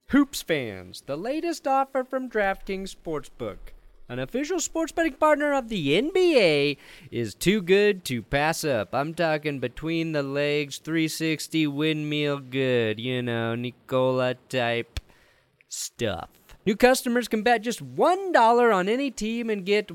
Hoops fans, the latest offer from DraftKings Sportsbook, an official sports betting partner of the NBA, is too good to pass up. I'm talking between the legs, 360 windmill good, Nicola type stuff. New customers can bet just $1 on any team and get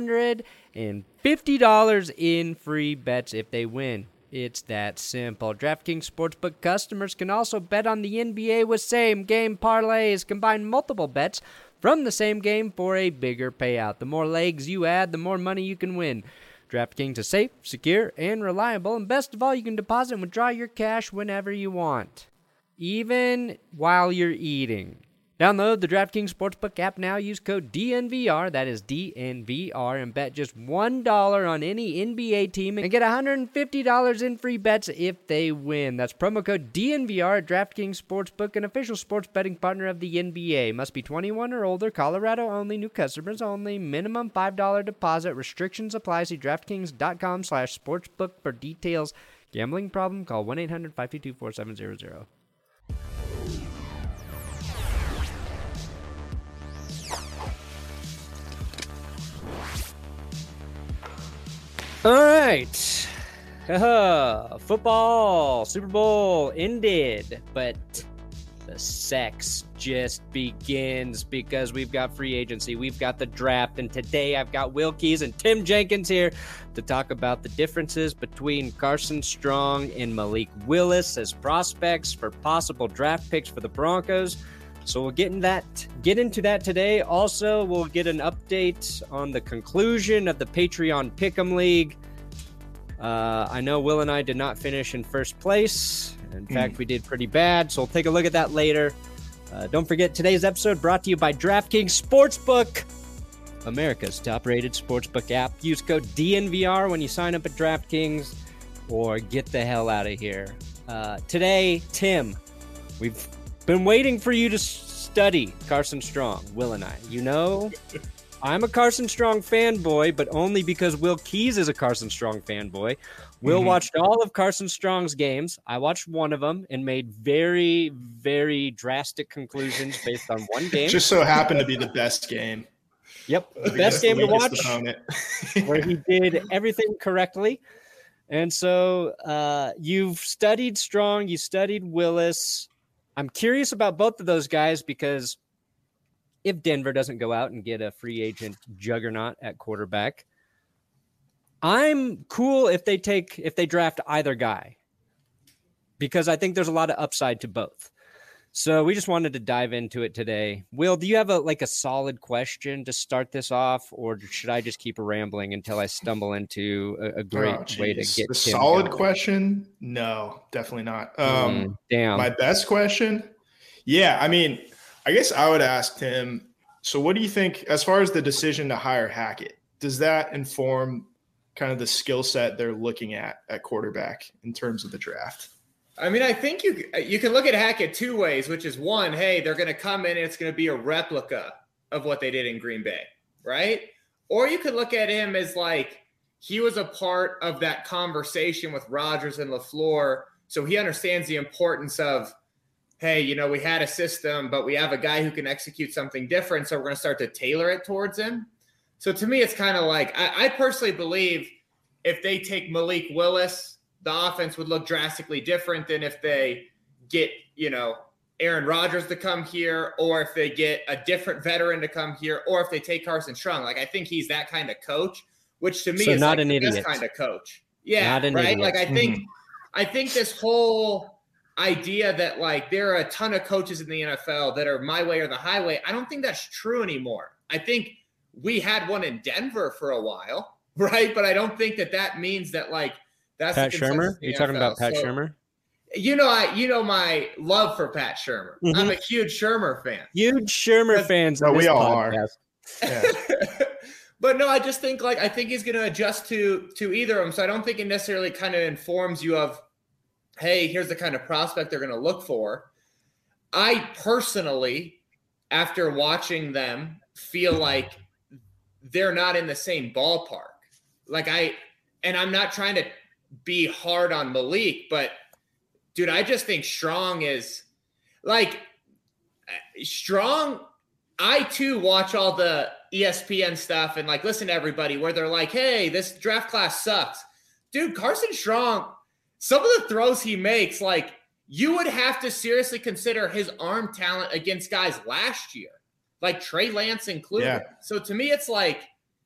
$150 in free bets if they win. It's that simple. DraftKings Sportsbook customers can also bet on the NBA with same-game parlays. Combine multiple bets from the same game for a bigger payout. The more legs you add, the more money you can win. DraftKings is safe, secure, and reliable. And best of all, you can deposit and withdraw your cash whenever you want, even while you're eating. Download the DraftKings Sportsbook app now. Use code DNVR, that is DNVR, and bet just $1 on any NBA team and get $150 in free bets if they win. That's promo code DNVR at DraftKings Sportsbook, an official sports betting partner of the NBA. Must be 21 or older, Colorado only, new customers only, minimum $5 deposit. Restrictions apply. See DraftKings.com/sportsbook for details. Gambling problem? Call 1-800-522-4700. All right. Football, Super Bowl ended, but the sex just begins because we've got free agency, we've got the draft, and today I've got Will Keys and Tim Jenkins here to talk about the differences between Carson Strong and Malik Willis as prospects for possible draft picks for the Broncos. So we'll get into that today. Also, we'll get an update on the conclusion of the Patreon Pick'em League. I know Will and I did not finish in first place. In fact, we did pretty bad, so we'll take a look at that later. Don't forget, today's episode brought to you by DraftKings Sportsbook, America's top-rated sportsbook app. Use code DNVR when you sign up at DraftKings, or get the hell out of here. Today, Tim, we've been waiting for you to study Carson Strong, Will and I. I'm a Carson Strong fanboy, but only because Will Keys is a Carson Strong fanboy. Will watched all of Carson Strong's games. I watched one of them and made very, very drastic conclusions based on one game. Just so happened to be the best game. Yep, the best game to watch, where he did everything correctly. And so you've studied Strong, you studied Willis. I'm curious about both of those guys because if Denver doesn't go out and get a free agent juggernaut at quarterback, I'm cool if they draft either guy, because I think there's a lot of upside to both. So we just wanted to dive into it today. Will, do you have a solid question to start this off, or should I just keep rambling until I stumble into a great way to get the solid question? No, definitely not. Damn. My best question? Yeah, I mean, I guess I would ask Tim, so what do you think as far as the decision to hire Hackett? Does that inform kind of the skill set they're looking at quarterback in terms of the draft? I mean, I think you can look at Hackett two ways, which is one, hey, they're going to come in and it's going to be a replica of what they did in Green Bay, right? Or you could look at him as like he was a part of that conversation with Rodgers and LaFleur, so he understands the importance of, hey, we had a system, but we have a guy who can execute something different, so we're going to start to tailor it towards him. So to me, it's kind of like I personally believe if they take Malik Willis, the offense would look drastically different than if they get, Aaron Rodgers to come here, or if they get a different veteran to come here, or if they take Carson Strong. Like, I think he's that kind of coach, which to me is not like an the idiot. best kind of coach. Yeah, not an right? idiot. Like, I think this whole idea that, like, there are a ton of coaches in the NFL that are my way or the highway, I don't think that's true anymore. I think we had one in Denver for a while, right? But I don't think that means that, like, that's Pat Shurmur? Are you talking about Pat Shurmur? My love for Pat Shurmur. I'm a huge Shurmur fan. Huge Shurmur fans. No, we all are. Yeah. But no, I just think I think he's going to adjust to either of them. So I don't think it necessarily kind of informs you of, hey, here's the kind of prospect they're going to look for. I personally, after watching them, feel like they're not in the same ballpark. And I'm not trying to be hard on Malik, but dude, I just think Strong is like, Strong, I too watch all the ESPN stuff and like listen to everybody where they're like, hey, this draft class sucks. Dude, Carson Strong, some of the throws he makes, like you would have to seriously consider his arm talent against guys last year, like Trey Lance included. Yeah. So to me, it's like,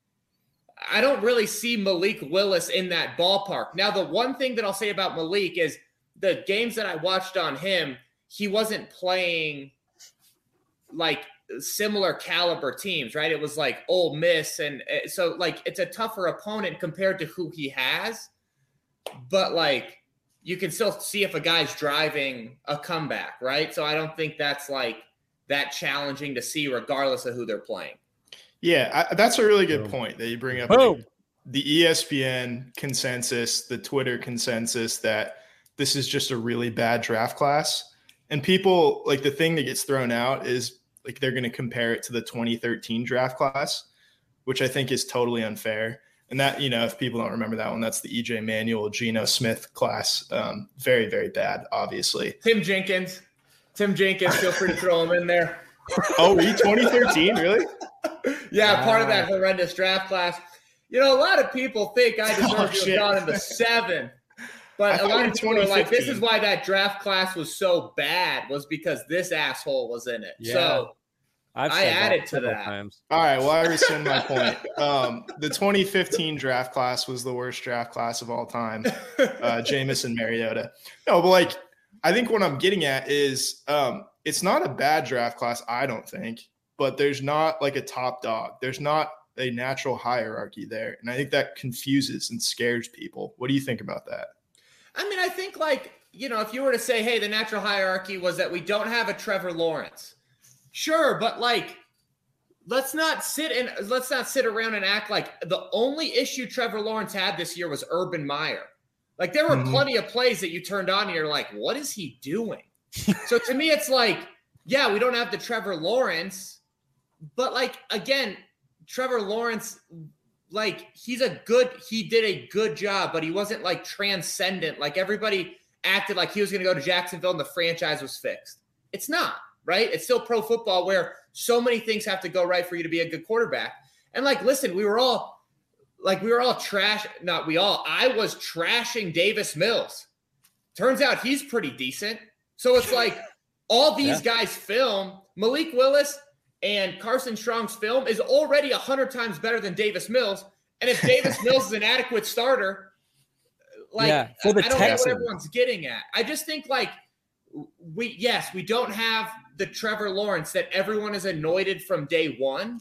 I don't really see Malik Willis in that ballpark. Now, the one thing that I'll say about Malik is the games that I watched on him, he wasn't playing like similar caliber teams, right? It was like Ole Miss. And so like, it's a tougher opponent compared to who he has, but like you can still see if a guy's driving a comeback, right? So I don't think that's like that challenging to see regardless of who they're playing. Yeah, that's a really good point that you bring up. Like, the ESPN consensus, the Twitter consensus that this is just a really bad draft class. And people, like the thing that gets thrown out is like they're going to compare it to the 2013 draft class, which I think is totally unfair. And that, you know, if people don't remember that one, that's the EJ Manuel, Geno Smith class. Very, very bad, obviously. Tim Jenkins, feel free to throw him in there. Oh, 2013, really? Yeah, part of that horrendous draft class. You know, a lot of people think I deserve to have gone in the 7th. But a lot of people are like, this is why that draft class was so bad, was because this asshole was in it. Yeah. So I added to that. Times. All right, well, I rescind my point. The 2015 draft class was the worst draft class of all time. Jamison Mariota. No, but like, I think what I'm getting at is it's not a bad draft class, I don't think, but there's not like a top dog. There's not a natural hierarchy there. And I think that confuses and scares people. What do you think about that? I mean, I think like, you know, if you were to say, hey, the natural hierarchy was that we don't have a Trevor Lawrence. Sure, but like, let's not sit around and act like the only issue Trevor Lawrence had this year was Urban Meyer. Like there were plenty of plays that you turned on and you're like, what is he doing? So to me, it's like, yeah, we don't have the Trevor Lawrence, but like, again, Trevor Lawrence, like he did a good job, but he wasn't like transcendent. Like everybody acted like he was going to go to Jacksonville and the franchise was fixed. It's not, right? It's still pro football where so many things have to go right for you to be a good quarterback. And like, listen, I was trashing Davis Mills. Turns out he's pretty decent. So it's like all these guys' film, Malik Willis and Carson Strong's film is already 100 times better than Davis Mills. And if Davis Mills is an adequate starter, like I don't know what everyone's getting at. I just think like we don't have the Trevor Lawrence that everyone is anointed from day one.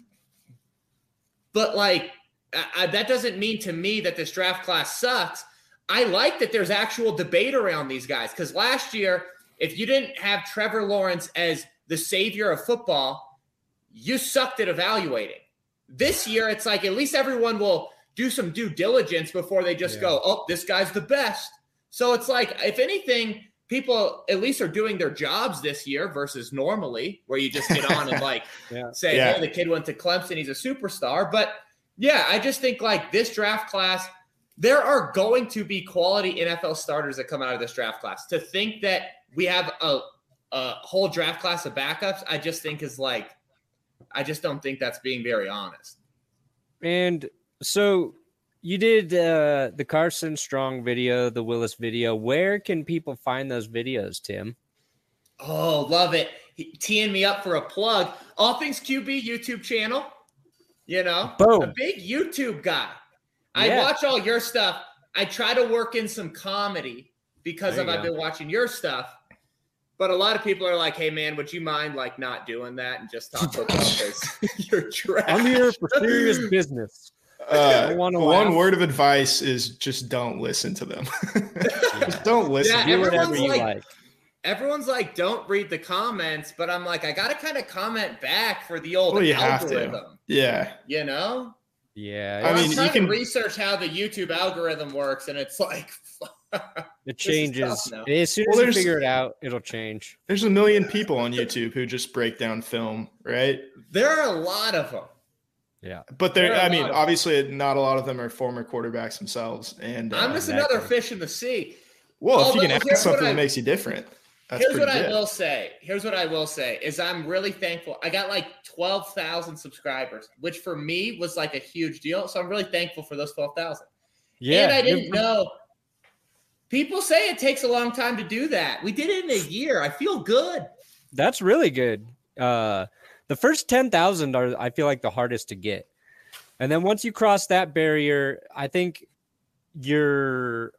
But like that doesn't mean to me that this draft class sucks. I like that there's actual debate around these guys because last year, if you didn't have Trevor Lawrence as the savior of football, you sucked at evaluating. This year, it's like at least everyone will do some due diligence before they just go, oh, this guy's the best. So it's like, if anything, people at least are doing their jobs this year versus normally where you just get on and like say, hey, the kid went to Clemson, he's a superstar. But yeah, I just think like this draft class, there are going to be quality NFL starters that come out of this draft class. To think that we have a whole draft class of backups, I just think is like, I just don't think that's being very honest. And so you did the Carson Strong video, the Willis video. Where can people find those videos, Tim? Oh, love it. Teeing me up for a plug. All Things QB YouTube channel. You know, Boom. A big YouTube guy. I watch all your stuff. I try to work in some comedy because I've been watching your stuff. But a lot of people are like, hey, man, would you mind like not doing that and just talk about your trash? I'm here for serious business. One word of advice is just don't listen to them. Just don't listen. Do whatever you like. Everyone's like, don't read the comments. But I'm like, I got to kind of comment back for the old algorithm. Have to. Yeah. You know? Yeah. I mean, you can research how the YouTube algorithm works, and it's like it changes. As soon as you figure it out, it'll change. There's a million people on YouTube who just break down film, right? There are a lot of them. Yeah. But obviously not a lot of them are former quarterbacks themselves. And I'm just another fish in the sea. Well, if you can add something that makes you different. Here's what I will say is I'm really thankful. I got like 12,000 subscribers, which for me was like a huge deal. So I'm really thankful for those 12,000. Yeah. And I didn't know. People say it takes a long time to do that. We did it in a year. I feel good. That's really good. The first 10,000 are, I feel like, the hardest to get. And then once you cross that barrier, I think you're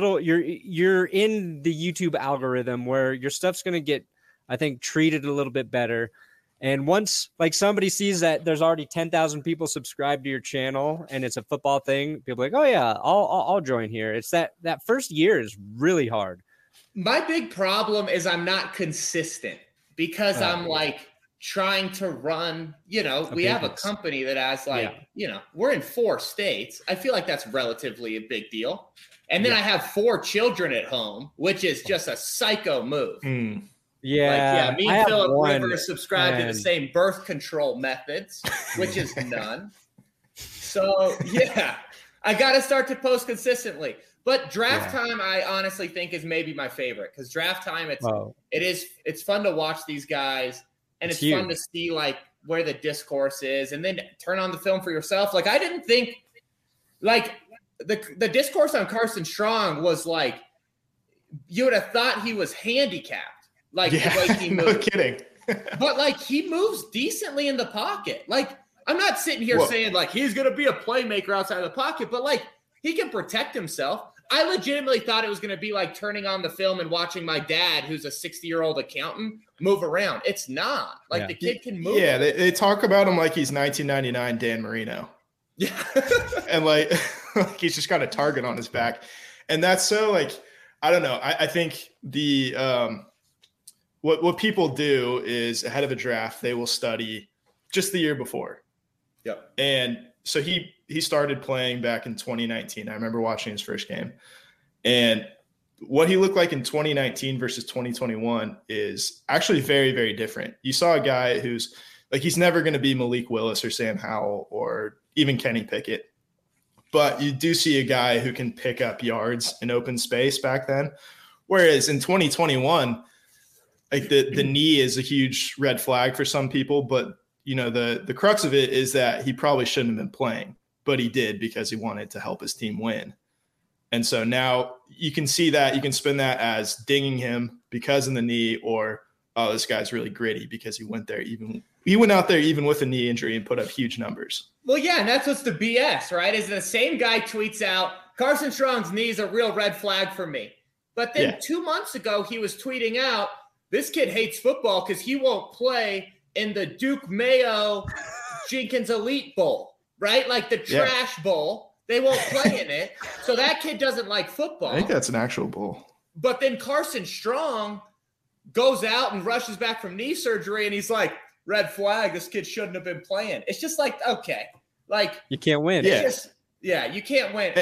in the YouTube algorithm where your stuff's going to get, I think, treated a little bit better. And once like somebody sees that there's already 10,000 people subscribed to your channel and it's a football thing, people are like, oh yeah, I'll join here. It's that first year is really hard. My big problem is I'm not consistent because I'm like trying to run, we have a company that has we're in 4 states. I feel like that's relatively a big deal. And then I have 4 children at home, which is just a psycho move. Yeah. Me and Philip Rivers subscribe to the same birth control methods, which is none. So, I got to start to post consistently. But draft time, I honestly think is maybe my favorite because draft time, it's fun to watch these guys, and it's fun to see like where the discourse is, and then turn on the film for yourself. Like I didn't think like the discourse on Carson Strong was like you would have thought he was handicapped, like the way he moved. No kidding. But like he moves decently in the pocket. Like I'm not sitting here saying like he's gonna be a playmaker outside of the pocket, but like he can protect himself. I legitimately thought it was going to be like turning on the film and watching my dad, who's a 60-year-old accountant, move around. It's not. Like the kid can move. Yeah, they talk about him like he's 1999 Dan Marino. Yeah. And like he's just got a target on his back. And that's so like, I don't know. I think the what people do is ahead of a draft, they will study just the year before. Yep. And so he started playing back in 2019. I remember watching his first game. And what he looked like in 2019 versus 2021 is actually very, very different. You saw a guy who's like, he's never going to be Malik Willis or Sam Howell or even Kenny Pickett. But you do see a guy who can pick up yards in open space back then. Whereas in 2021, like the knee is a huge red flag for some people, but the crux of it is that he probably shouldn't have been playing, but he did because he wanted to help his team win. And so now you can see that, you can spin that as dinging him because of the knee, or, oh, this guy's really gritty because he went out there even with a knee injury and put up huge numbers. Well, yeah, and that's what's the BS, right? Is the same guy tweets out, Carson Strong's knee is a real red flag for me. But then 2 months ago, he was tweeting out, this kid hates football because he won't play in the Duke Mayo Jenkins Elite Bowl, right? Like the trash bowl. They won't play in it. So that kid doesn't like football. I think that's an actual bowl. But then Carson Strong goes out and rushes back from knee surgery, and he's like, red flag, this kid shouldn't have been playing. It's just like, okay. Like you can't win. You can't win.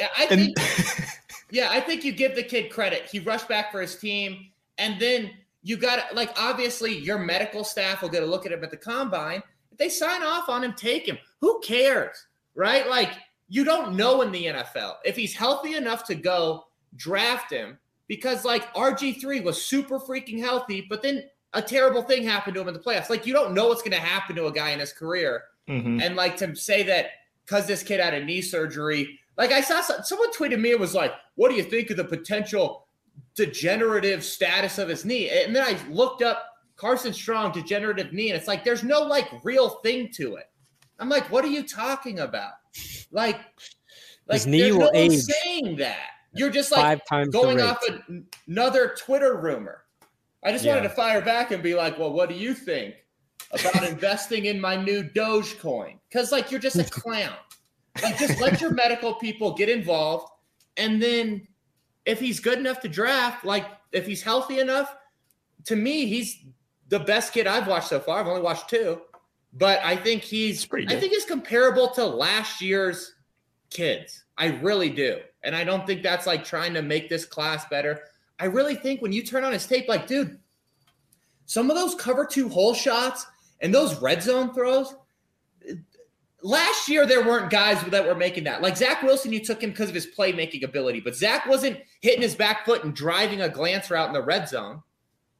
I think you give the kid credit. He rushed back for his team, and then you got like obviously your medical staff will get a look at him at the combine. If they sign off on him, take him. Who cares, right? Like you don't know in the NFL if he's healthy enough to go draft him because like RG3 was super freaking healthy, but then a terrible thing happened to him in the playoffs. Like you don't know what's going to happen to a guy in his career, and like to say that because this kid had a knee surgery. Like I saw someone tweeted me, it was like, "What do you think of the potential degenerative status of his knee?" And then I looked up Carson Strong degenerative knee, and it's like there's no like real thing to it. I'm like, what are you talking about? Like his knee will age. Saying that you're just like 5 times going off another Twitter rumor. I just wanted to fire back and be like, well, what do you think about investing in my new Dogecoin? Because like you're just a clown. Like just let your medical people get involved, and then if he's good enough to draft, like if he's healthy enough, to me, he's the best kid I've watched so far. I've only watched 2, but I think he's comparable to last year's kids. I really do. And I don't think that's like trying to make this class better. I really think when you turn on his tape, like, dude, some of those cover 2 hole shots and those red zone throws, last year, there weren't guys that were making that. Like Zach Wilson, you took him because of his playmaking ability, but Zach wasn't hitting his back foot and driving a glance route in the red zone.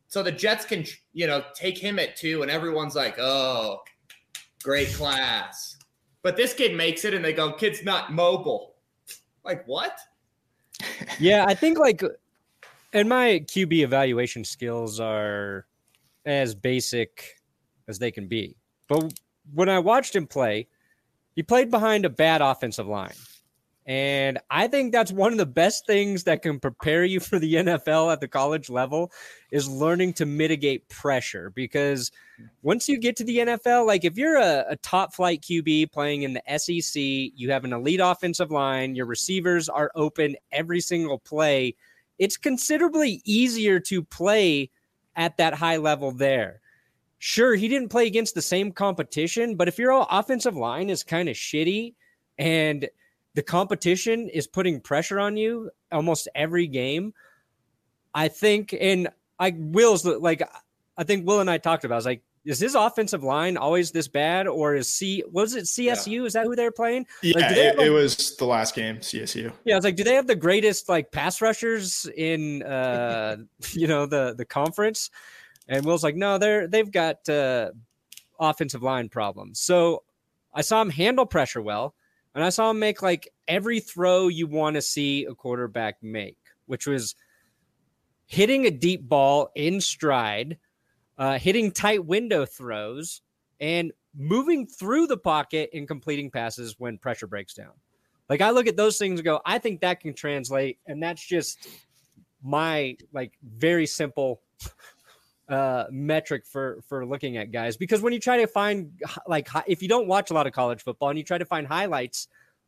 So the Jets can, take him at 2 and everyone's like, oh, great class. But this kid makes it and they go, kid's not mobile. Like, what? Yeah, I think and my QB evaluation skills are as basic as they can be. But when I watched him play, he played behind a bad offensive line. And I think that's one of the best things that can prepare you for the NFL at the college level is learning to mitigate pressure. Because once you get to the NFL, if you're a top flight QB playing in the SEC, you have an elite offensive line, your receivers are open every single play, it's considerably easier to play at that high level there. Sure, he didn't play against the same competition, but if your offensive line is kind of shitty and the competition is putting pressure on you almost every game, I think, and I think Will and I talked about, I was like, is his offensive line always this bad, or was it CSU? Yeah. Is that who they're playing? Yeah, it was the last game, CSU. Yeah, I was like, do they have the greatest pass rushers in the conference? And Will's like, no, they've got offensive line problems. So I saw him handle pressure well, and I saw him make every throw you want to see a quarterback make, which was hitting a deep ball in stride, hitting tight window throws, and moving through the pocket and completing passes when pressure breaks down. I look at those things and go, I think that can translate, and that's just my very simple metric for looking at guys. Because when you try to find if you don't watch a lot of college football and you try to find highlights,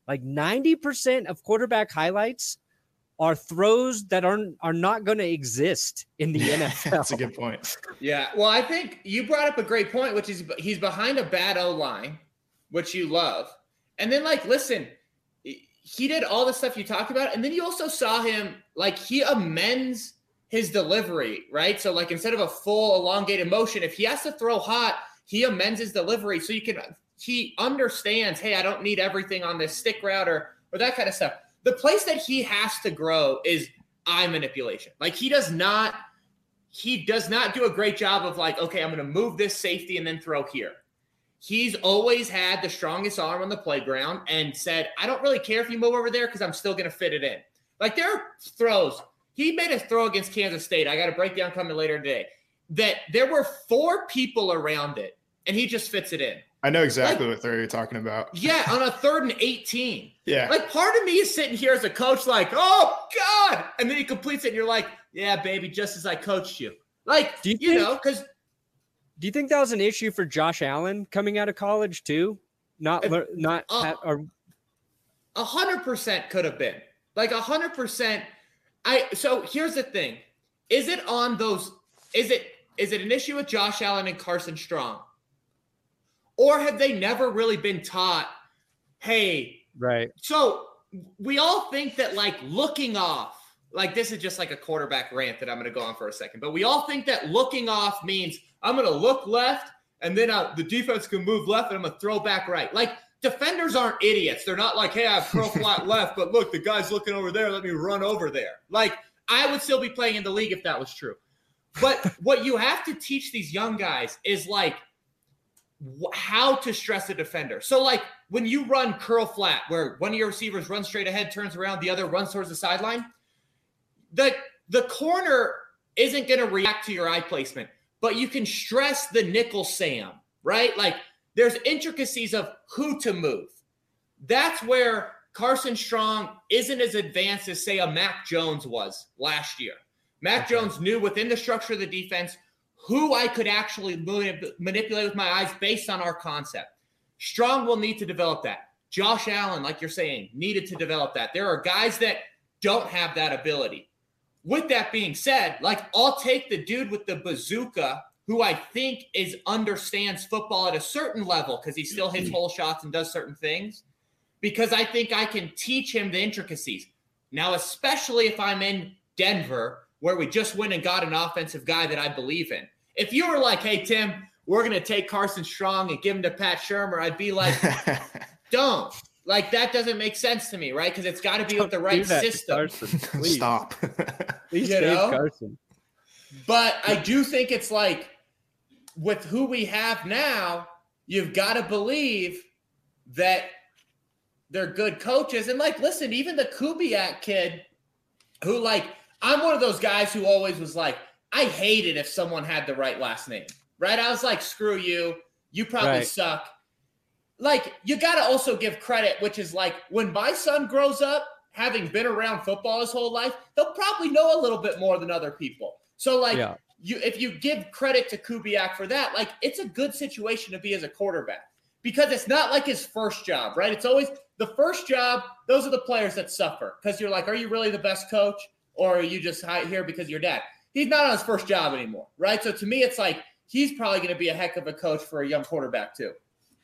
90% of quarterback highlights are throws that are not going to exist in the NFL. That's a good point. Yeah. Well, I think you brought up a great point, which is he's behind a bad O-line, which you love. And then listen, he did all the stuff you talked about. And then you also saw him, he amends his delivery, right? So instead of a full elongated motion, if he has to throw hot, he amends his delivery. So he understands, hey, I don't need everything on this stick route or that kind of stuff. The place that he has to grow is eye manipulation. He does not do a great job of okay, I'm going to move this safety and then throw here. He's always had the strongest arm on the playground and said, I don't really care if you move over there because I'm still going to fit it in. There are throws. He made a throw against Kansas State. I got a breakdown coming later today. That there were 4 people around it, and he just fits it in. I know exactly what throw you're talking about. Yeah, on a 3rd and 18. Yeah. Part of me is sitting here as a coach oh, God. And then he completes it, and you're like, yeah, baby, just as I coached you. Because – Do you think that was an issue for Josh Allen coming out of college too? 100% could have been 100%. So here's the thing: is it on those? Is it an issue with Josh Allen and Carson Strong, or have they never really been taught? Hey, right. So we all think that looking off. This is just a quarterback rant that I'm going to go on for a second, but we all think that looking off means I'm going to look left and then the defense can move left and I'm going to throw back right. Defenders aren't idiots. They're not hey, I have pro flat left, but look, the guy's looking over there. Let me run over there. I would still be playing in the league if that was true. But what you have to teach these young guys is how to stress a defender. So when you run curl flat, where one of your receivers runs straight ahead, turns around, the other runs towards the sideline, the corner isn't going to react to your eye placement, but you can stress the nickel Sam, right? There's intricacies of who to move. That's where Carson Strong isn't as advanced as, say, a Mac Jones was last year. Mac Jones knew within the structure of the defense who I could actually manipulate with my eyes based on our concept. Strong will need to develop that. Josh Allen, like you're saying, needed to develop that. There are guys that don't have that ability. With that being said, I'll take the dude with the bazooka who I think understands football at a certain level because he still hits hole shots and does certain things, because I think I can teach him the intricacies. Now, especially if I'm in Denver, where we just went and got an offensive guy that I believe in. If you were hey, Tim, we're going to take Carson Strong and give him to Pat Shurmur, I'd be don't. That doesn't make sense to me, right? Because it's got to be with the right system. Stop. Please save Carson. But I do think it's like with who we have now, you've got to believe that they're good coaches. And like, listen, even the Kubiak kid who like, I'm one of those guys who always was like, I hate it if someone had the right last name, right? I was like, screw you. You probably suck. Like, you got to also give credit, which is like when my son grows up, having been around football his whole life, he'll probably know a little bit more than other people. So like if you give credit to Kubiak for that, like it's a good situation to be as a quarterback because it's not like his first job, right? It's always the first job. Those are the players that suffer because you're like, are you really the best coach or are you just here because you're dad? He's not on his first job anymore, right? So to me, it's like he's probably going to be a heck of a coach for a young quarterback too.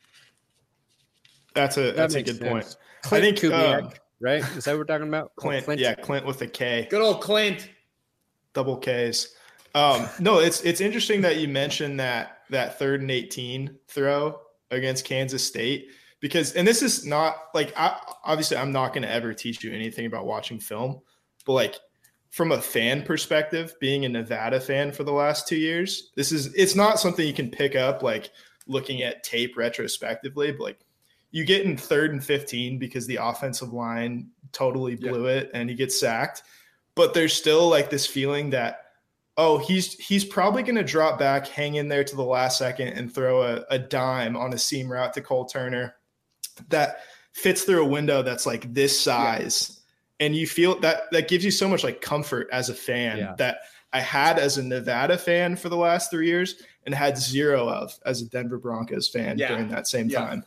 That's a good point. Clint, I think Kubiak, right? Is that what we're talking about? Clint. Yeah, Clint with a K. Good old Clint. Double Ks. No, it's interesting that you mentioned that 3rd and 18 throw against Kansas State because, and this is not like, obviously I'm not going to ever teach you anything about watching film, but like from a fan perspective, being a Nevada fan for the last 2 years, it's not something you can pick up like looking at tape retrospectively, but like you get in 3rd and 15 because the offensive line totally blew it and he gets sacked, but there's still like this feeling that, oh, he's probably going to drop back, hang in there to the last second and throw a dime on a seam route to Cole Turner that fits through a window that's like this size. Yeah. And you feel that gives you so much like comfort as a fan that I had as a Nevada fan for the last 3 years and had zero of as a Denver Broncos fan during that same time.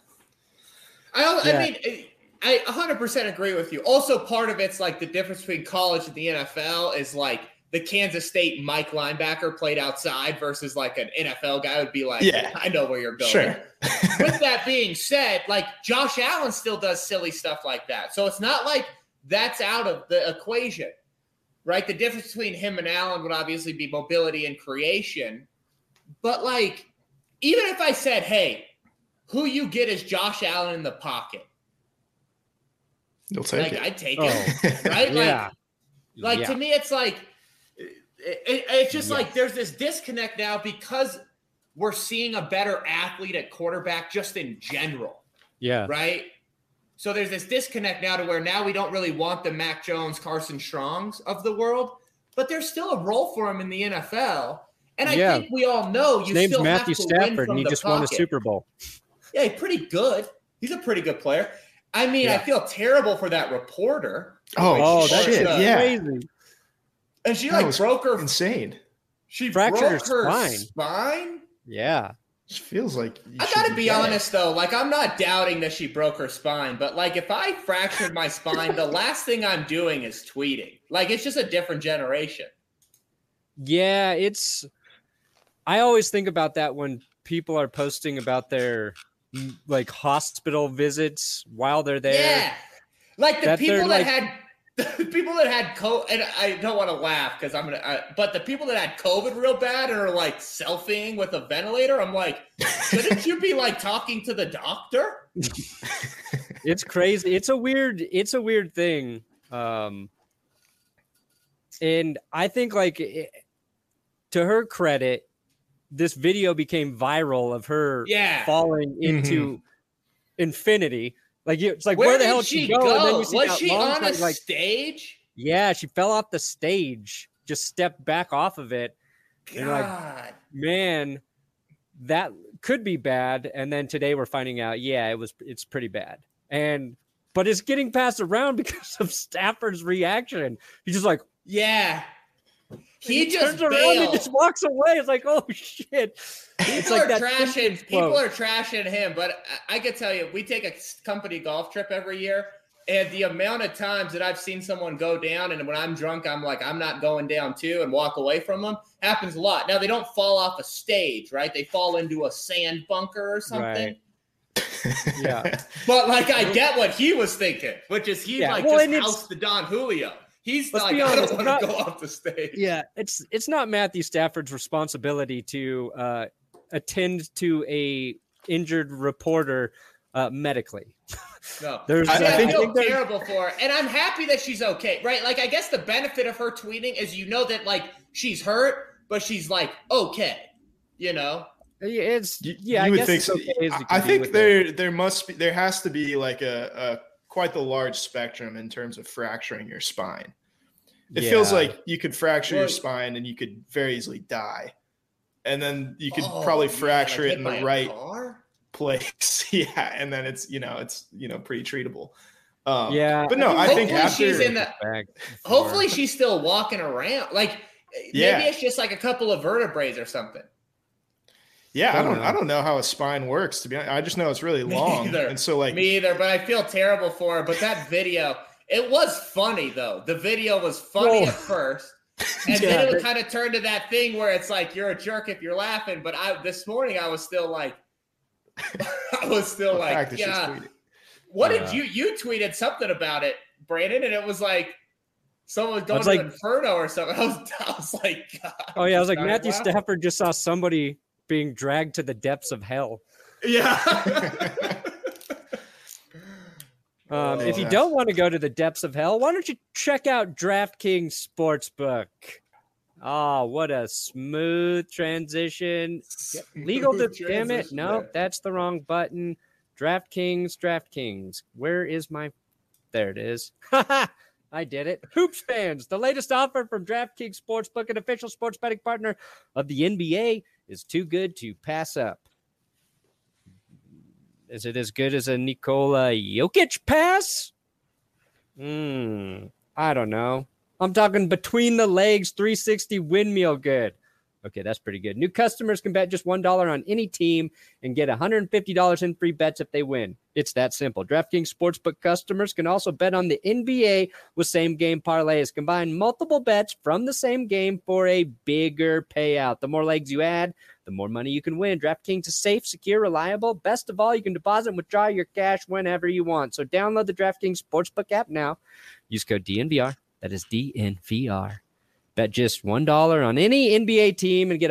I mean, I 100% agree with you. Also, part of it's like the difference between college and the NFL is like, the Kansas State Mike linebacker played outside versus like an NFL guy would be like, I know where you're going. Sure. With that being said, like Josh Allen still does silly stuff like that. So it's not like that's out of the equation, right? The difference between him and Allen would obviously be mobility and creation. But like, even if I said, hey, who you get is Josh Allen in the pocket. You'll take it. I'd take it, right? Like to me, it's like, it's just like there's this disconnect now because we're seeing a better athlete at quarterback just in general. Yeah. Right? So there's this disconnect now to where now we don't really want the Mac Jones, Carson Strongs of the world, but there's still a role for him in the NFL. And I think we all know his name's still Matthew have to Stafford, win from and he just won a Super Bowl. Yeah, he's pretty good. He's a pretty good player. I mean, I feel terrible for that reporter. Oh, that shit. Crazy. And she like broke her insane. She fractured broke her spine. Yeah. It feels like I gotta be honest though, like I'm not doubting that she broke her spine, but like if I fractured my spine, the last thing I'm doing is tweeting. Like it's just a different generation. Yeah, I always think about that when people are posting about their like hospital visits while they're there. Yeah. Like the people that had COVID, and I don't want to laugh because but the people that had COVID real bad and are like selfieing with a ventilator, I'm like, shouldn't you be like talking to the doctor? It's crazy. It's a weird thing. And I think like to her credit, this video became viral of her falling into infinity. Like it's like where the hell did she go? And then you see was she on a stage? Yeah, she fell off the stage, just stepped back off of it. God. And like, man, that could be bad. And then today we're finding out, it's pretty bad. But it's getting passed around because of Stafford's reaction. He's just like, he just turns around and just walks away. It's like, oh shit. People are trashing him, but I can tell you, we take a company golf trip every year, and the amount of times that I've seen someone go down, and when I'm drunk, I'm like, I'm not going down too, and walk away from them, happens a lot. Now, they don't fall off a stage, right? They fall into a sand bunker or something. Right. Yeah. But, like, I get what he was thinking, which is just house the Don Julio. He's like, I don't want to go off the stage. Yeah, it's not Matthew Stafford's responsibility to attend to a injured reporter medically. No, I feel terrible for her, and I'm happy that she's okay, right? Like, I guess the benefit of her tweeting is that like she's hurt, but she's like, okay, you know? It's You I would guess think it's so. okay as you I can be think with it. there has to be like a quite the large spectrum in terms of fracturing your spine. It feels like you could fracture your spine and you could very easily die. And then you could probably fracture it in the right place. Yeah. And then it's pretty treatable. But no, I think after hopefully she's still walking around. Like maybe it's just like a couple of vertebrae or something. Yeah, I don't know how a spine works, to be honest. I just know it's really long. And so me either, but I feel terrible for her. But that video, it was funny though. The video was funny at first. And then it kind of turned to that thing where it's like you're a jerk if you're laughing. But this morning I was still like yeah. What did you tweeted something about it, Brandon? And it was like someone was going to Inferno or something. I was like, God. Oh yeah, I was like, Matthew Stafford just saw somebody being dragged to the depths of hell. Yeah. If you don't want to go to the depths of hell, why don't you check out DraftKings Sportsbook? Oh, what a smooth transition. Legal to damn it. No, that's the wrong button. DraftKings. Where is there it is. I did it. Hoops fans, the latest offer from DraftKings Sportsbook, an official sports betting partner of the NBA, is too good to pass up. Is it as good as a Nikola Jokic pass? I don't know. I'm talking between the legs, 360 windmill good. Okay, that's pretty good. New customers can bet just $1 on any team and get $150 in free bets if they win. It's that simple. DraftKings Sportsbook customers can also bet on the NBA with same-game parlays. Combine multiple bets from the same game for a bigger payout. The more legs you add, the more money you can win. DraftKings is safe, secure, reliable. Best of all, you can deposit and withdraw your cash whenever you want. So download the DraftKings Sportsbook app now. Use code DNVR. That is DNVR. Bet just $1 on any NBA team and get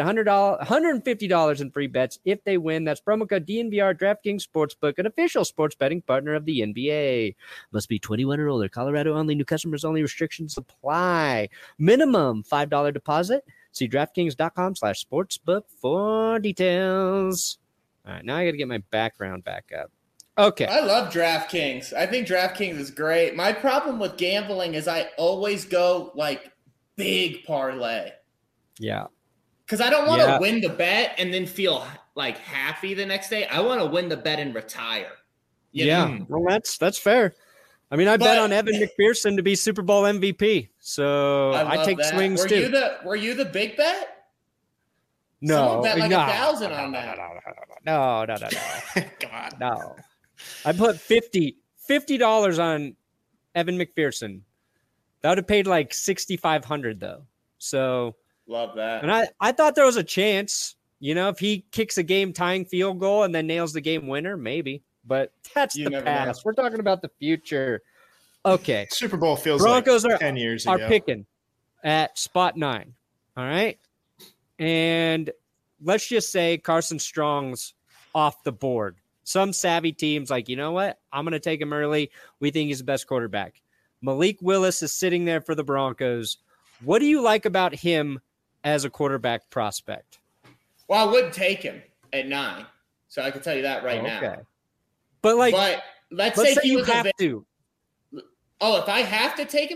$150 in free bets if they win. That's promo code DNVR. DraftKings Sportsbook, an official sports betting partner of the NBA. Must be 21 or older. Colorado only. New customers only. Restrictions apply. Minimum $5 deposit. See DraftKings.com/sportsbook for details. All right, now I got to get my background back up. Okay. I love DraftKings. I think DraftKings is great. My problem with gambling is I always go like big parlay. Yeah. Because I don't want to win the bet and then feel like happy the next day. I want to win the bet and retire. You know? Well, that's fair. I mean, I bet on Evan McPherson to be Super Bowl MVP. So I take swings too. Were you the big bet? No. Someone bet like 1,000 on that. No. Come on. No. I put $50 on Evan McPherson. That would have paid like $6,500 though. So love that. And I thought there was a chance, if he kicks a game tying field goal and then nails the game winner, maybe. But that's the past. We're talking about the future. Okay. Super Bowl feels Broncos like 10 years ago. Are picking at spot 9. All right. And let's just say Carson Strong's off the board. Some savvy teams like, you know what? I'm going to take him early. We think he's the best quarterback. Malik Willis is sitting there for the Broncos. What do you like about him as a quarterback prospect? Well, I wouldn't take him at 9. So I can tell you that now. But let's say he you have to. Oh, if I have to take him?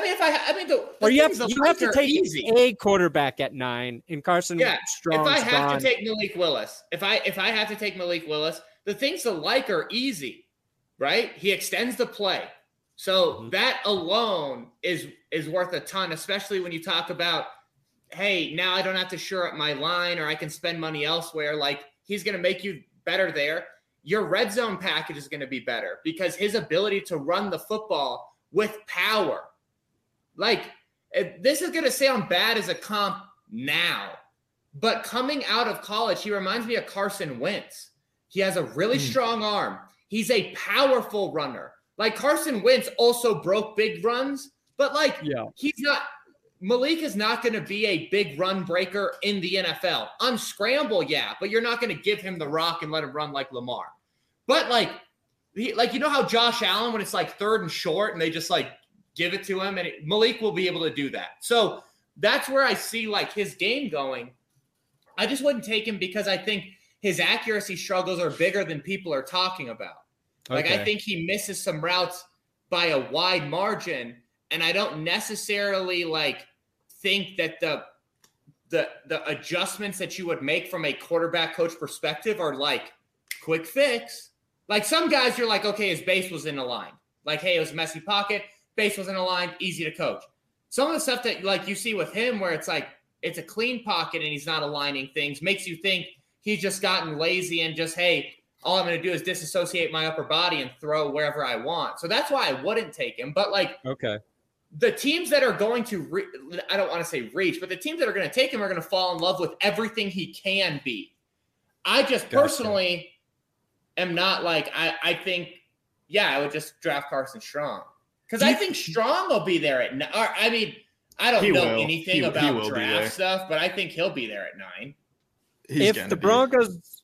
You have to take a quarterback at 9 in Carson Strong. If I have to take Malik Willis, if I have to take Malik Willis, the things to like are easy, right? He extends the play. So that alone is worth a ton, especially when you talk about, hey, now I don't have to shore up my line or I can spend money elsewhere. Like, he's going to make you better there. Your red zone package is going to be better because his ability to run the football with power. Like, this is going to sound bad as a comp now, but coming out of college, he reminds me of Carson Wentz. He has a really strong arm. He's a powerful runner. Like, Carson Wentz also broke big runs, but Malik is not going to be a big run breaker in the NFL. Unscramble, but you're not going to give him the rock and let him run like Lamar. But you know how Josh Allen, when it's like 3rd and short and they just give it to him, and Malik will be able to do that. So that's where I see like his game going. I just wouldn't take him because I think his accuracy struggles are bigger than people are talking about. Like, I think he misses some routes by a wide margin, and I don't necessarily like think that the adjustments that you would make from a quarterback coach perspective are like quick fix. Like some guys, you're like, okay, his base was in a line. Like, hey, it was a messy pocket, base was in a line, easy to coach. Some of the stuff that like you see with him where it's like it's a clean pocket and he's not aligning things makes you think he's just gotten lazy and just, hey, all I'm going to do is disassociate my upper body and throw wherever I want. So that's why I wouldn't take him. But like, the teams that are going to, I don't want to say reach, but the teams that are going to take him are going to fall in love with everything he can be. I just personally am not like, I think, I would just draft Carson Strong. Because I think Strong will be there at 9. I mean, I don't know anything about draft stuff, but I think he'll be there at 9. If the Broncos,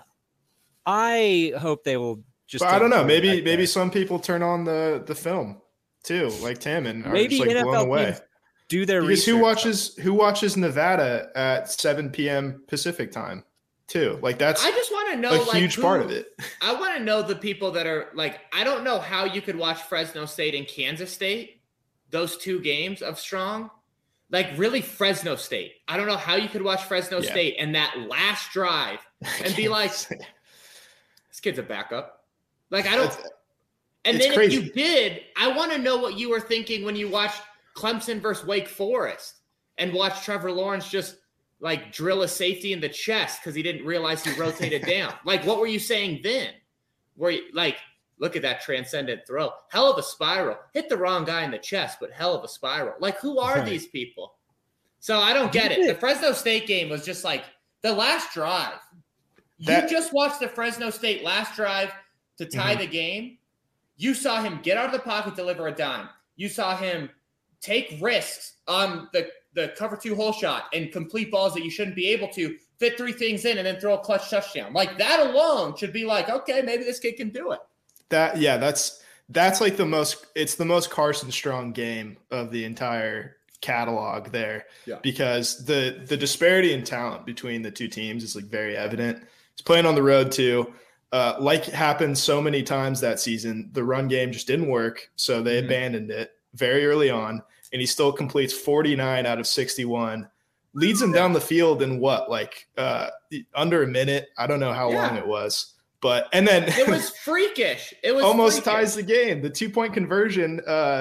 I hope they will just. But I don't know. Maybe some people turn on the film too, like Tim, and maybe are just like NFL blown away. Do their because research. who watches Nevada at 7 p.m. Pacific time too? Like that's. I just want to know a huge part of it. I want to know the people that are like. I don't know how you could watch Fresno State and Kansas State, those 2 games of Strong. Like really Fresno State. I don't know how you could watch Fresno State and that last drive and be like, this kid's a backup. Like I don't. And then crazy. If you did, I want to know what you were thinking when you watched Clemson versus Wake Forest and watched Trevor Lawrence just like drill a safety in the chest because he didn't realize he rotated down. Like what were you saying then? Were you like, look at that transcendent throw. Hell of a spiral. Hit the wrong guy in the chest, but hell of a spiral. Like, who are these people? So I don't get it. The Fresno State game was just like the last drive. You just watched the Fresno State last drive to tie the game. You saw him get out of the pocket, deliver a dime. You saw him take risks on the cover 2 hole shot and complete balls that you shouldn't be able to, fit 3 things in, and then throw a clutch touchdown. Like, that alone should be like, okay, maybe this kid can do it. That's like it's the most Carson Strong game of the entire catalog there because the disparity in talent between the 2 teams is like very evident. He's playing on the road too. Like happened so many times that season, the run game just didn't work. So they abandoned it very early on, and he still completes 49 out of 61, leads him down the field in under a minute. I don't know how long it was. But and then it was freakish. It was almost ties the game. The 2-point conversion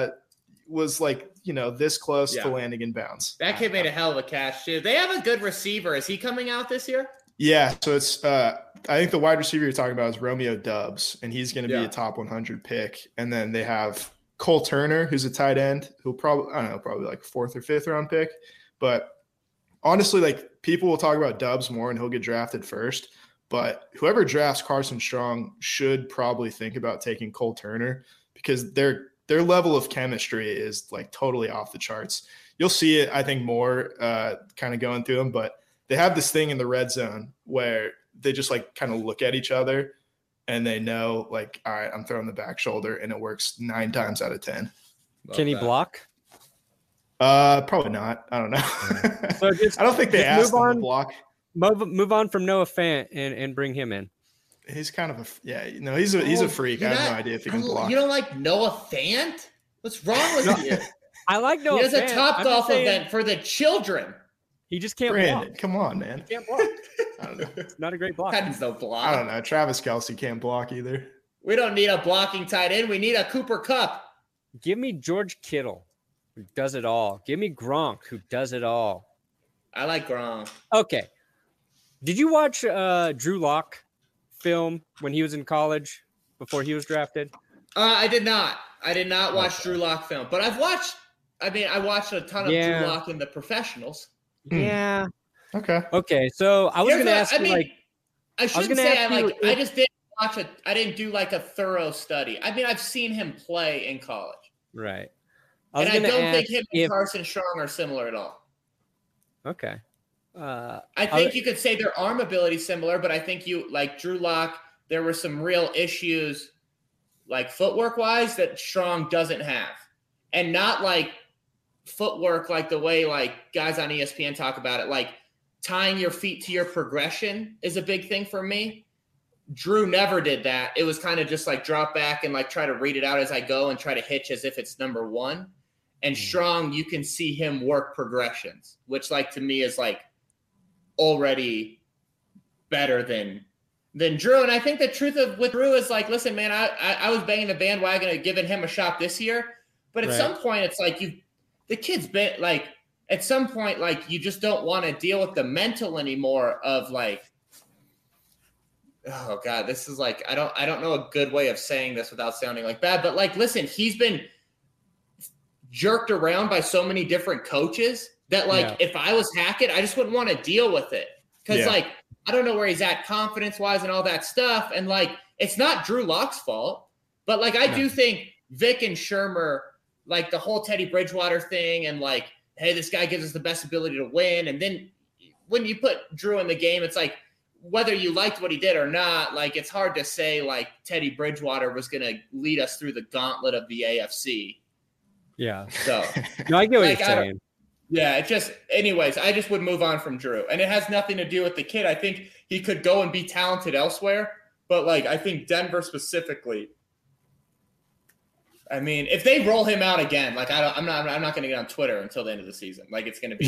was like, this close to landing in bounds. That kid made a hell of a catch too. They have a good receiver. Is he coming out this year? Yeah. So it's I think the wide receiver you're talking about is Romeo Doubs, and he's going to be a top 100 pick. And then they have Cole Turner, who's a tight end, who'll probably like 4th or 5th round pick. But honestly, like people will talk about Doubs more, and he'll get drafted first. But whoever drafts Carson Strong should probably think about taking Cole Turner because their level of chemistry is like totally off the charts. You'll see it, I think, more kind of going through them. But they have this thing in the red zone where they just like kind of look at each other and they know like, all right, I'm throwing the back shoulder, and it works 9 times out of 10. Can he block? Probably not. I don't know. So I don't think they asked him to block. Move on from Noah Fant and bring him in. He's kind of he's a freak. I have no idea if he can block. You don't like Noah Fant? What's wrong with you? I like Noah Fant. He has a Topgolf event for the children. He just can't block. Come on, man. He can't block. I don't know. It's not a great block. That is no block. I don't know. Travis Kelce can't block either. We don't need a blocking tight end. We need a Cooper Kupp. Give me George Kittle, who does it all. Give me Gronk, who does it all. I like Gronk. Okay. Did you watch Drew Lock film when he was in college before he was drafted? I did not. I did not watch Drew Lock film, but I watched a ton of Drew Lock in the professionals. Yeah. Okay. So I was going to ask I shouldn't say I just didn't watch it. I didn't do like a thorough study. I mean, I've seen him play in college. Right. I don't think him and Carson Strong are similar at all. Okay. I think you could say their arm ability is similar, but I think like Drew Lock, there were some real issues like footwork wise that Strong doesn't have. And not like footwork, like the way like guys on ESPN talk about it, like tying your feet to your progression is a big thing for me. Drew never did that. It was kind of just like drop back and like try to read it out as I go and try to hitch as if it's number one. And Strong, you can see him work progressions, which like to me is like already better than Drew. And I think the truth of with Drew is like, listen, man, I was banging the bandwagon of giving him a shot this year, but at some point it's like the kid's been like, at some point, like you just don't want to deal with the mental anymore of like, oh God, this is like, I don't know a good way of saying this without sounding like bad, but like, listen, he's been jerked around by so many different coaches that like, if I was Hackett, I just wouldn't want to deal with it. Cause like, I don't know where he's at confidence wise and all that stuff. And like, it's not Drew Lock's fault, but like, I do think Vic and Shurmur, like the whole Teddy Bridgewater thing and like, hey, this guy gives us the best ability to win. And then when you put Drew in the game, it's like, whether you liked what he did or not, like it's hard to say like Teddy Bridgewater was going to lead us through the gauntlet of the AFC. Yeah. So no, I get what like, you're saying. Yeah, it just, anyways, I just would move on from Drew. And it has nothing to do with the kid. I think he could go and be talented elsewhere. But like, I think Denver specifically, I mean, if they roll him out again, like I'm not going to get on Twitter until the end of the season. Like it's going to be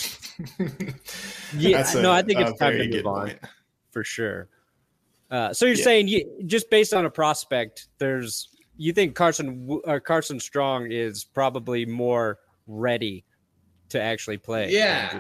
hell. I think it's time to move on for sure. So you're saying just based on a prospect, you think Carson Strong is probably more ready to actually play.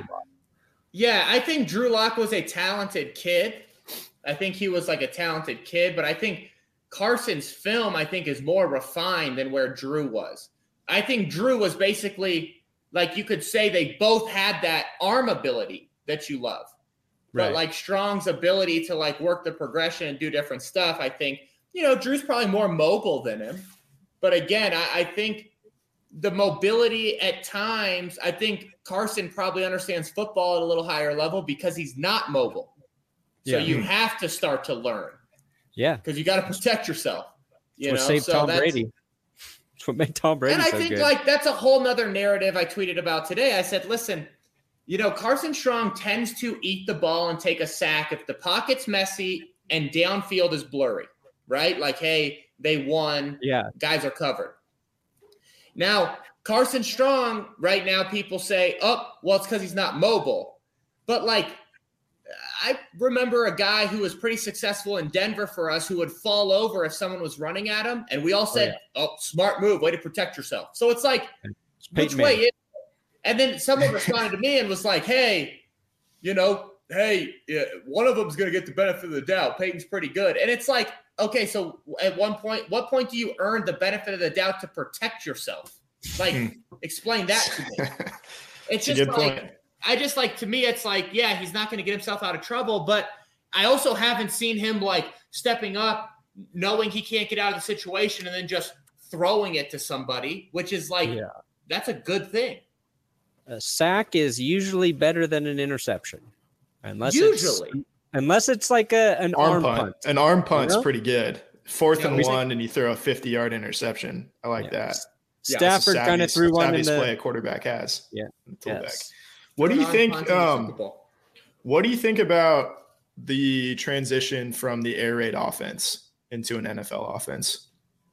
Yeah, I think Drew Lock was a talented kid. I think he was like a talented kid, but I think Carson's film, I think, is more refined than where Drew was. I think Drew was basically, like you could say they both had that arm ability that you love. But like Strong's ability to like work the progression and do different stuff, I think, Drew's probably more mobile than him. But again, I think the mobility at times, I think Carson probably understands football at a little higher level because he's not mobile. So you have to start to learn. Yeah. Because you got to protect yourself. That's what saved Tom Brady. That's what made Tom Brady so good. And I think like that's a whole nother narrative I tweeted about today. I said, listen, Carson Strong tends to eat the ball and take a sack if the pocket's messy and downfield is blurry, right? Like, hey, they won. Yeah. Guys are covered. Now, Carson Strong, right now, people say, it's because he's not mobile. But, like, I remember a guy who was pretty successful in Denver for us who would fall over if someone was running at him. And we all said, smart move, way to protect yourself. So it's like, which way is it? And then someone responded to me and was like, hey, one of them's going to get the benefit of the doubt. Peyton's pretty good. And it's like, okay, so at what point do you earn the benefit of the doubt to protect yourself? Like, explain that to me. It's just like, to me, it's like, yeah, he's not going to get himself out of trouble, but I also haven't seen him like stepping up, knowing he can't get out of the situation and then just throwing it to somebody, which is like, that's a good thing. A sack is usually better than an interception. Unless it's like an arm punt. An arm punt's pretty good. 4th and 1, and you throw a 50-yard interception. I like that. Stafford kind of threw one in the play a quarterback has. Yeah. Yes. What do you think? What do you think about the transition from the air raid offense into an NFL offense?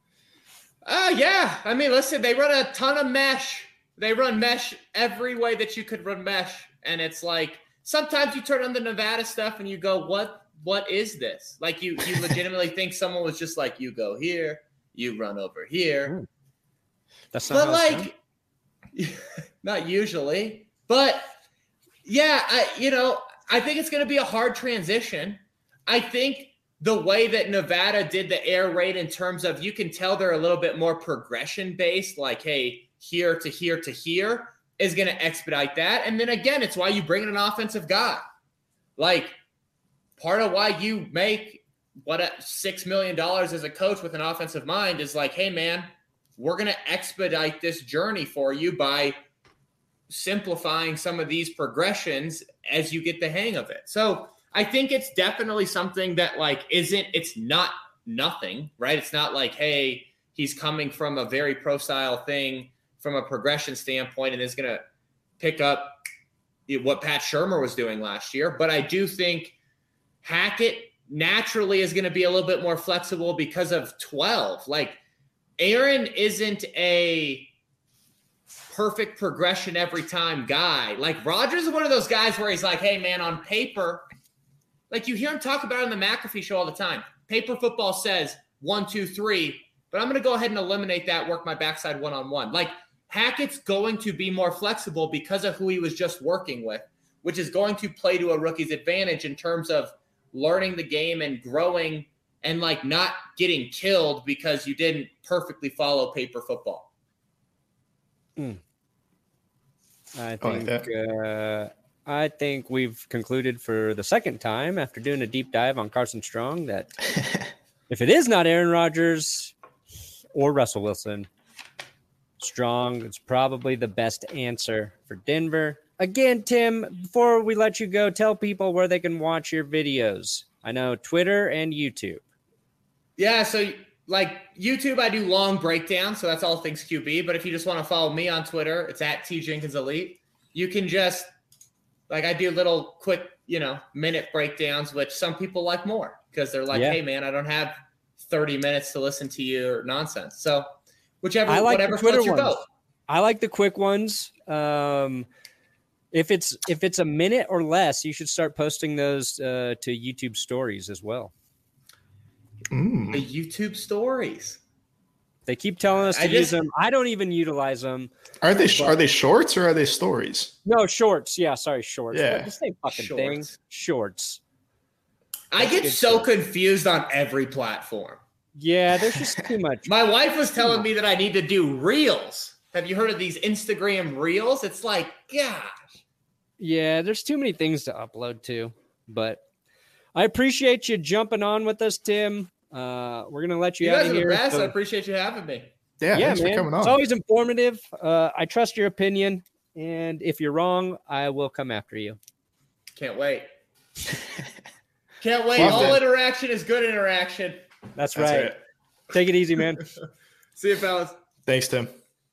I mean, listen, they run a ton of mesh. They run mesh every way that you could run mesh, and it's like sometimes you turn on the Nevada stuff and you go, what is this? Like you legitimately think someone was just like, you go here, you run over here. That's not like not usually. But yeah, I think it's going to be a hard transition. I think the way that Nevada did the air raid in terms of you can tell they're a little bit more progression based, like, hey, here to here to here is going to expedite that. And then again, it's why you bring in an offensive guy. Like part of why you make $6 million as a coach with an offensive mind is like, hey man, we're going to expedite this journey for you by simplifying some of these progressions as you get the hang of it. So I think it's definitely something that like it's not nothing, right? It's not like, hey, he's coming from a very pro style thing from a progression standpoint and is going to pick up what Pat Shurmur was doing last year. But I do think Hackett naturally is going to be a little bit more flexible because of 12. Like, Aaron isn't a perfect progression every time guy. Like, Rodgers is one of those guys where he's like, hey, man, on paper, like you hear him talk about it on the McAfee show all the time. Paper football says 1, 2, 3, but I'm going to go ahead and eliminate that, work my backside one-on-one. Like, Hackett's going to be more flexible because of who he was just working with, which is going to play to a rookie's advantage in terms of learning the game and growing and like not getting killed because you didn't perfectly follow paper football. I think we've concluded for the second time after doing a deep dive on Carson Strong that if it is not Aaron Rodgers or Russell Wilson, Strong is probably the best answer for Denver. Again, Tim, before we let you go, tell people where they can watch your videos. I know Twitter and YouTube. Yeah, so like YouTube, I do long breakdowns, so that's all things QB. But if you just want to follow me on Twitter, it's at TJenkinsElite. You can just, like, I do little quick, minute breakdowns, which some people like more because they're like, hey, man, I don't have 30 minutes to listen to your nonsense. So whatever floats your boat. I like the quick ones. If it's a minute or less, you should start posting those to YouTube stories as well. The YouTube stories. They keep telling us to use them. I don't even utilize them. Are they shorts or are they stories? No, shorts. Yeah, sorry, shorts. Yeah, the same fucking thing. Shorts. I get so confused on every platform. Yeah, there's just too much. My wife was telling me that I need to do reels. Have you heard of these Instagram reels? It's like, gosh. Yeah, there's too many things to upload to. But I appreciate you jumping on with us, Tim. We're going to let you out of here. You guys are the best. I appreciate you having me. Yeah, thanks for coming on. It's always informative. I trust your opinion. And if you're wrong, I will come after you. Can't wait. Can't wait. All interaction is good interaction. That's right. Take it easy, man. See you, fellas. Thanks, Tim.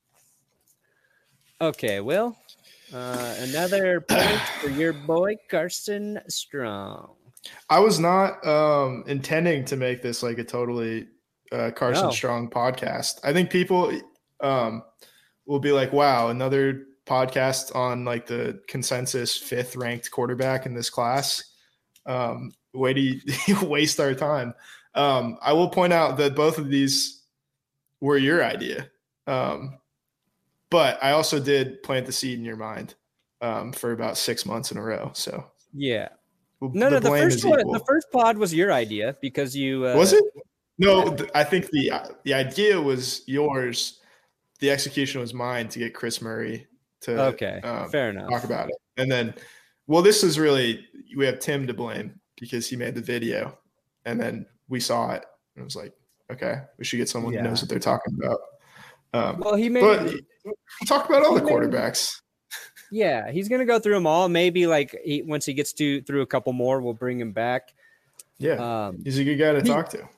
Okay, Will. Another point for your boy, Carson Strong. I was not intending to make this like a totally Carson Strong podcast. I think people will be like, wow, another podcast on like the consensus 5th ranked quarterback in this class. Way to waste our time. I will point out that both of these were your idea. But I also did plant the seed in your mind for about 6 months in a row. So yeah. The first pod was your idea because you was it? No, I think the idea was yours. The execution was mine to get Chris Murray to fair enough. Talk about it. And then, this is really, we have Tim to blame because he made the video and then we saw it and it was like, okay, we should get someone who knows what they're talking about. But talk about all the quarterbacks. Yeah, he's going to go through them all. Maybe once he gets through a couple more, we'll bring him back. Yeah, he's a good guy to talk to.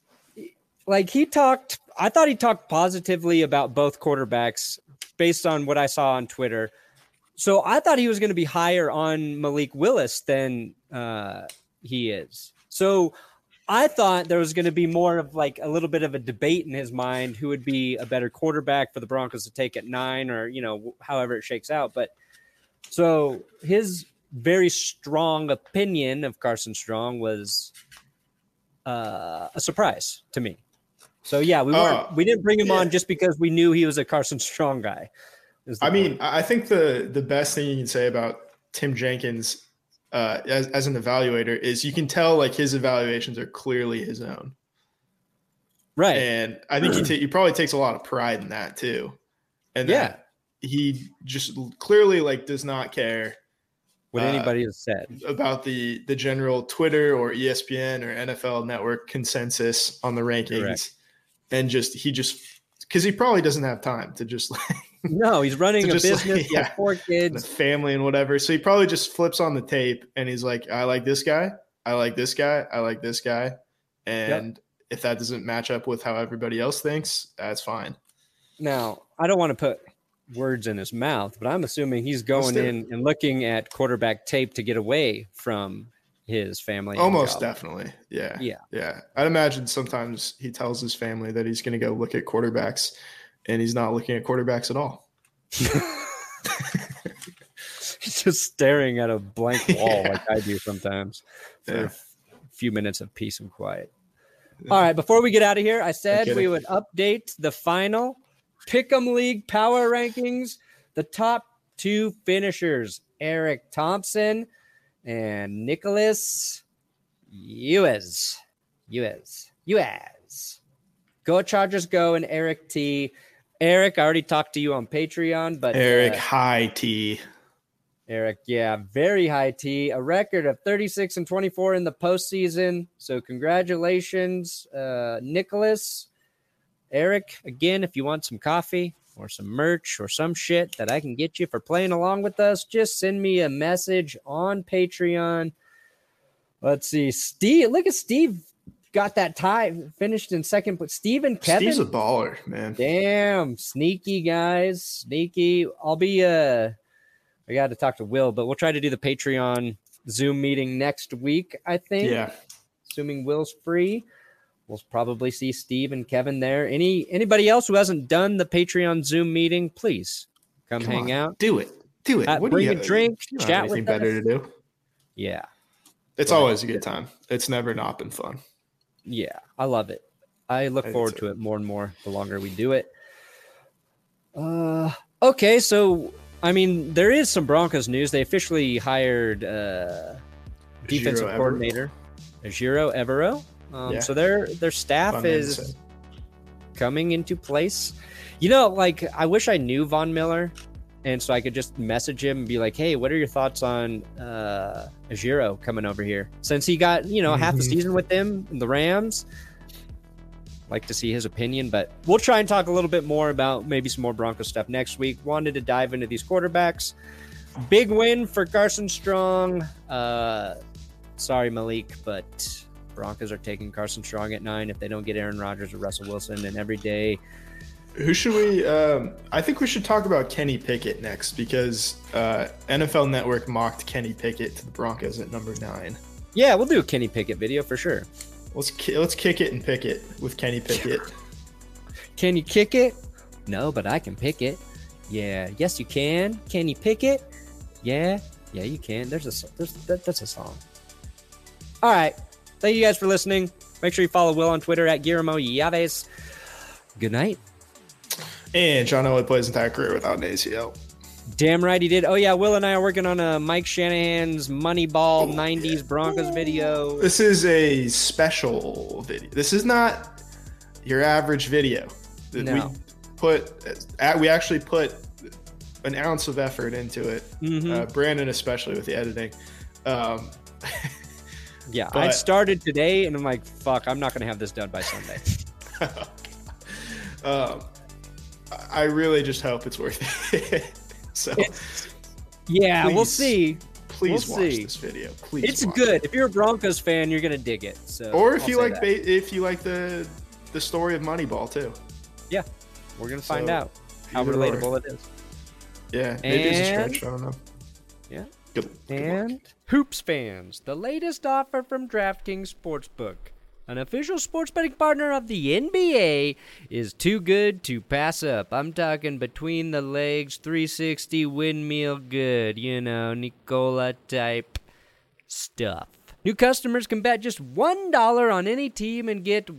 I thought he talked positively about both quarterbacks based on what I saw on Twitter. So I thought he was going to be higher on Malik Willis than he is. So I thought there was going to be more of like a little bit of a debate in his mind who would be a better quarterback for the Broncos to take at 9 or, however it shakes out. But so his very strong opinion of Carson Strong was a surprise to me. So yeah, we didn't bring him on just because we knew he was a Carson Strong guy. I think the best thing you can say about Tim Jenkins as an evaluator is you can tell like his evaluations are clearly his own. Right. And I think he probably takes a lot of pride in that too. And that he just clearly like does not care what anybody has said about the general Twitter or ESPN or NFL Network consensus on the rankings. Correct. And because he probably doesn't have time to just like no, he's running a business, he has 4 kids, and a family and whatever. So he probably just flips on the tape and he's like, I like this guy. I like this guy. I like this guy. And if that doesn't match up with how everybody else thinks, that's fine. Now, I don't want to put words in his mouth, but I'm assuming he's going in and looking at quarterback tape to get away from his family. Almost definitely. Yeah. I'd imagine sometimes he tells his family that he's going to go look at quarterbacks, and he's not looking at quarterbacks at all. He's just staring at a blank wall like I do sometimes for a few minutes of peace and quiet. All right, before we get out of here, I said we would update the final Pick'em League power rankings. The top 2 finishers, Eric Thompson and Nicholas Uez. Go Chargers go, and Eric T. Eric, I already talked to you on Patreon, but Eric high T. Eric, very high T. A record of 36-24 in the postseason. So congratulations, Nicholas. Eric, again, if you want some coffee or some merch or some shit that I can get you for playing along with us, just send me a message on Patreon. Let's see. Steve, look at Steve. Got that tie, finished in second, but Steve and Kevin. Steve's a baller, man. Damn, sneaky guys, sneaky. I got to talk to Will, but we'll try to do the Patreon Zoom meeting next week, I think. Yeah. Assuming Will's free. We'll probably see Steve and Kevin there. Anybody else who hasn't done the Patreon Zoom meeting, please come hang out. Do it. Bring a drink, chat with us. Better to do. Yeah. It's always a good time. It's never not been fun. Yeah, I love it. I look forward to it more and more the longer we do it. Okay, so I mean, there is some Broncos news. They officially hired defensive coordinator Ejiro Evero. So their staff is coming into place. You know, like I wish I knew Von Miller, and so I could just message him and be like, "Hey, what are your thoughts on Ejiro coming over here?" Since he got half the season with them in the Rams. Like to see his opinion, but we'll try and talk a little bit more about maybe some more Broncos stuff next week. Wanted to dive into these quarterbacks. Big win for Carson Strong. Sorry, Malik, but Broncos are taking Carson Strong at 9 if they don't get Aaron Rodgers or Russell Wilson. And every day, who should we? I think we should talk about Kenny Pickett next because NFL Network mocked Kenny Pickett to the Broncos at number 9. Yeah, we'll do a Kenny Pickett video for sure. Let's kick it and pick it with Kenny Pickett. Can you kick it? No, but I can pick it. Yeah, yes you can. Can you pick it? Yeah, you can. That's a song. All right, thank you guys for listening. Make sure you follow Will on Twitter at Guillermo Yaves. Good night. And John Elway plays his entire career without an ACL. Damn right he did. Oh, yeah, Will and I are working on a Mike Shanahan's Moneyball 90s Broncos video. This is a special video. This is not your average video. No. We actually put an ounce of effort into it. Mm-hmm. Brandon especially with the editing. Yeah, I started today, and I'm like, fuck, I'm not going to have this done by Sunday. I really just hope it's worth it. So, we'll see. Please watch this video. Please, it's good. If you're a Broncos fan, you're gonna dig it. So, or if you like the story of Moneyball too. Yeah, we're gonna find out how relatable it is. Yeah, maybe it's a stretch. I don't know. Yeah. Good and luck. Hoops fans, the latest offer from DraftKings Sportsbook. An official sports betting partner of the NBA is too good to pass up. I'm talking between the legs, 360 windmill good, Nicola type stuff. New customers can bet just $1 on any team and get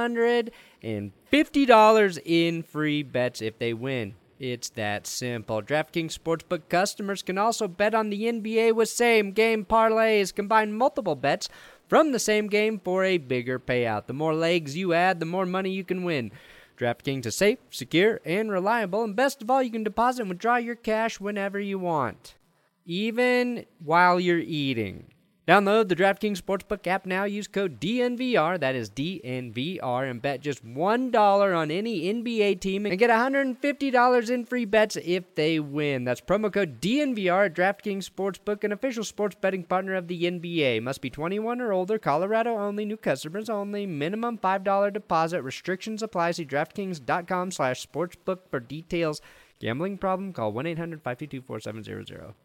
$150 in free bets if they win. It's that simple. DraftKings Sportsbook customers can also bet on the NBA with same-game parlays, combine multiple bets from the same game for a bigger payout. The more legs you add, the more money you can win. DraftKings is safe, secure, and reliable, and best of all, you can deposit and withdraw your cash whenever you want, even while you're eating. Download the DraftKings Sportsbook app now. Use code DNVR, that is DNVR, and bet just $1 on any NBA team and get $150 in free bets if they win. That's promo code DNVR at DraftKings Sportsbook, an official sports betting partner of the NBA. Must be 21 or older, Colorado only, new customers only, minimum $5 deposit. Restrictions apply. See DraftKings.com/sportsbook for details. Gambling problem? Call 1-800-522-4700.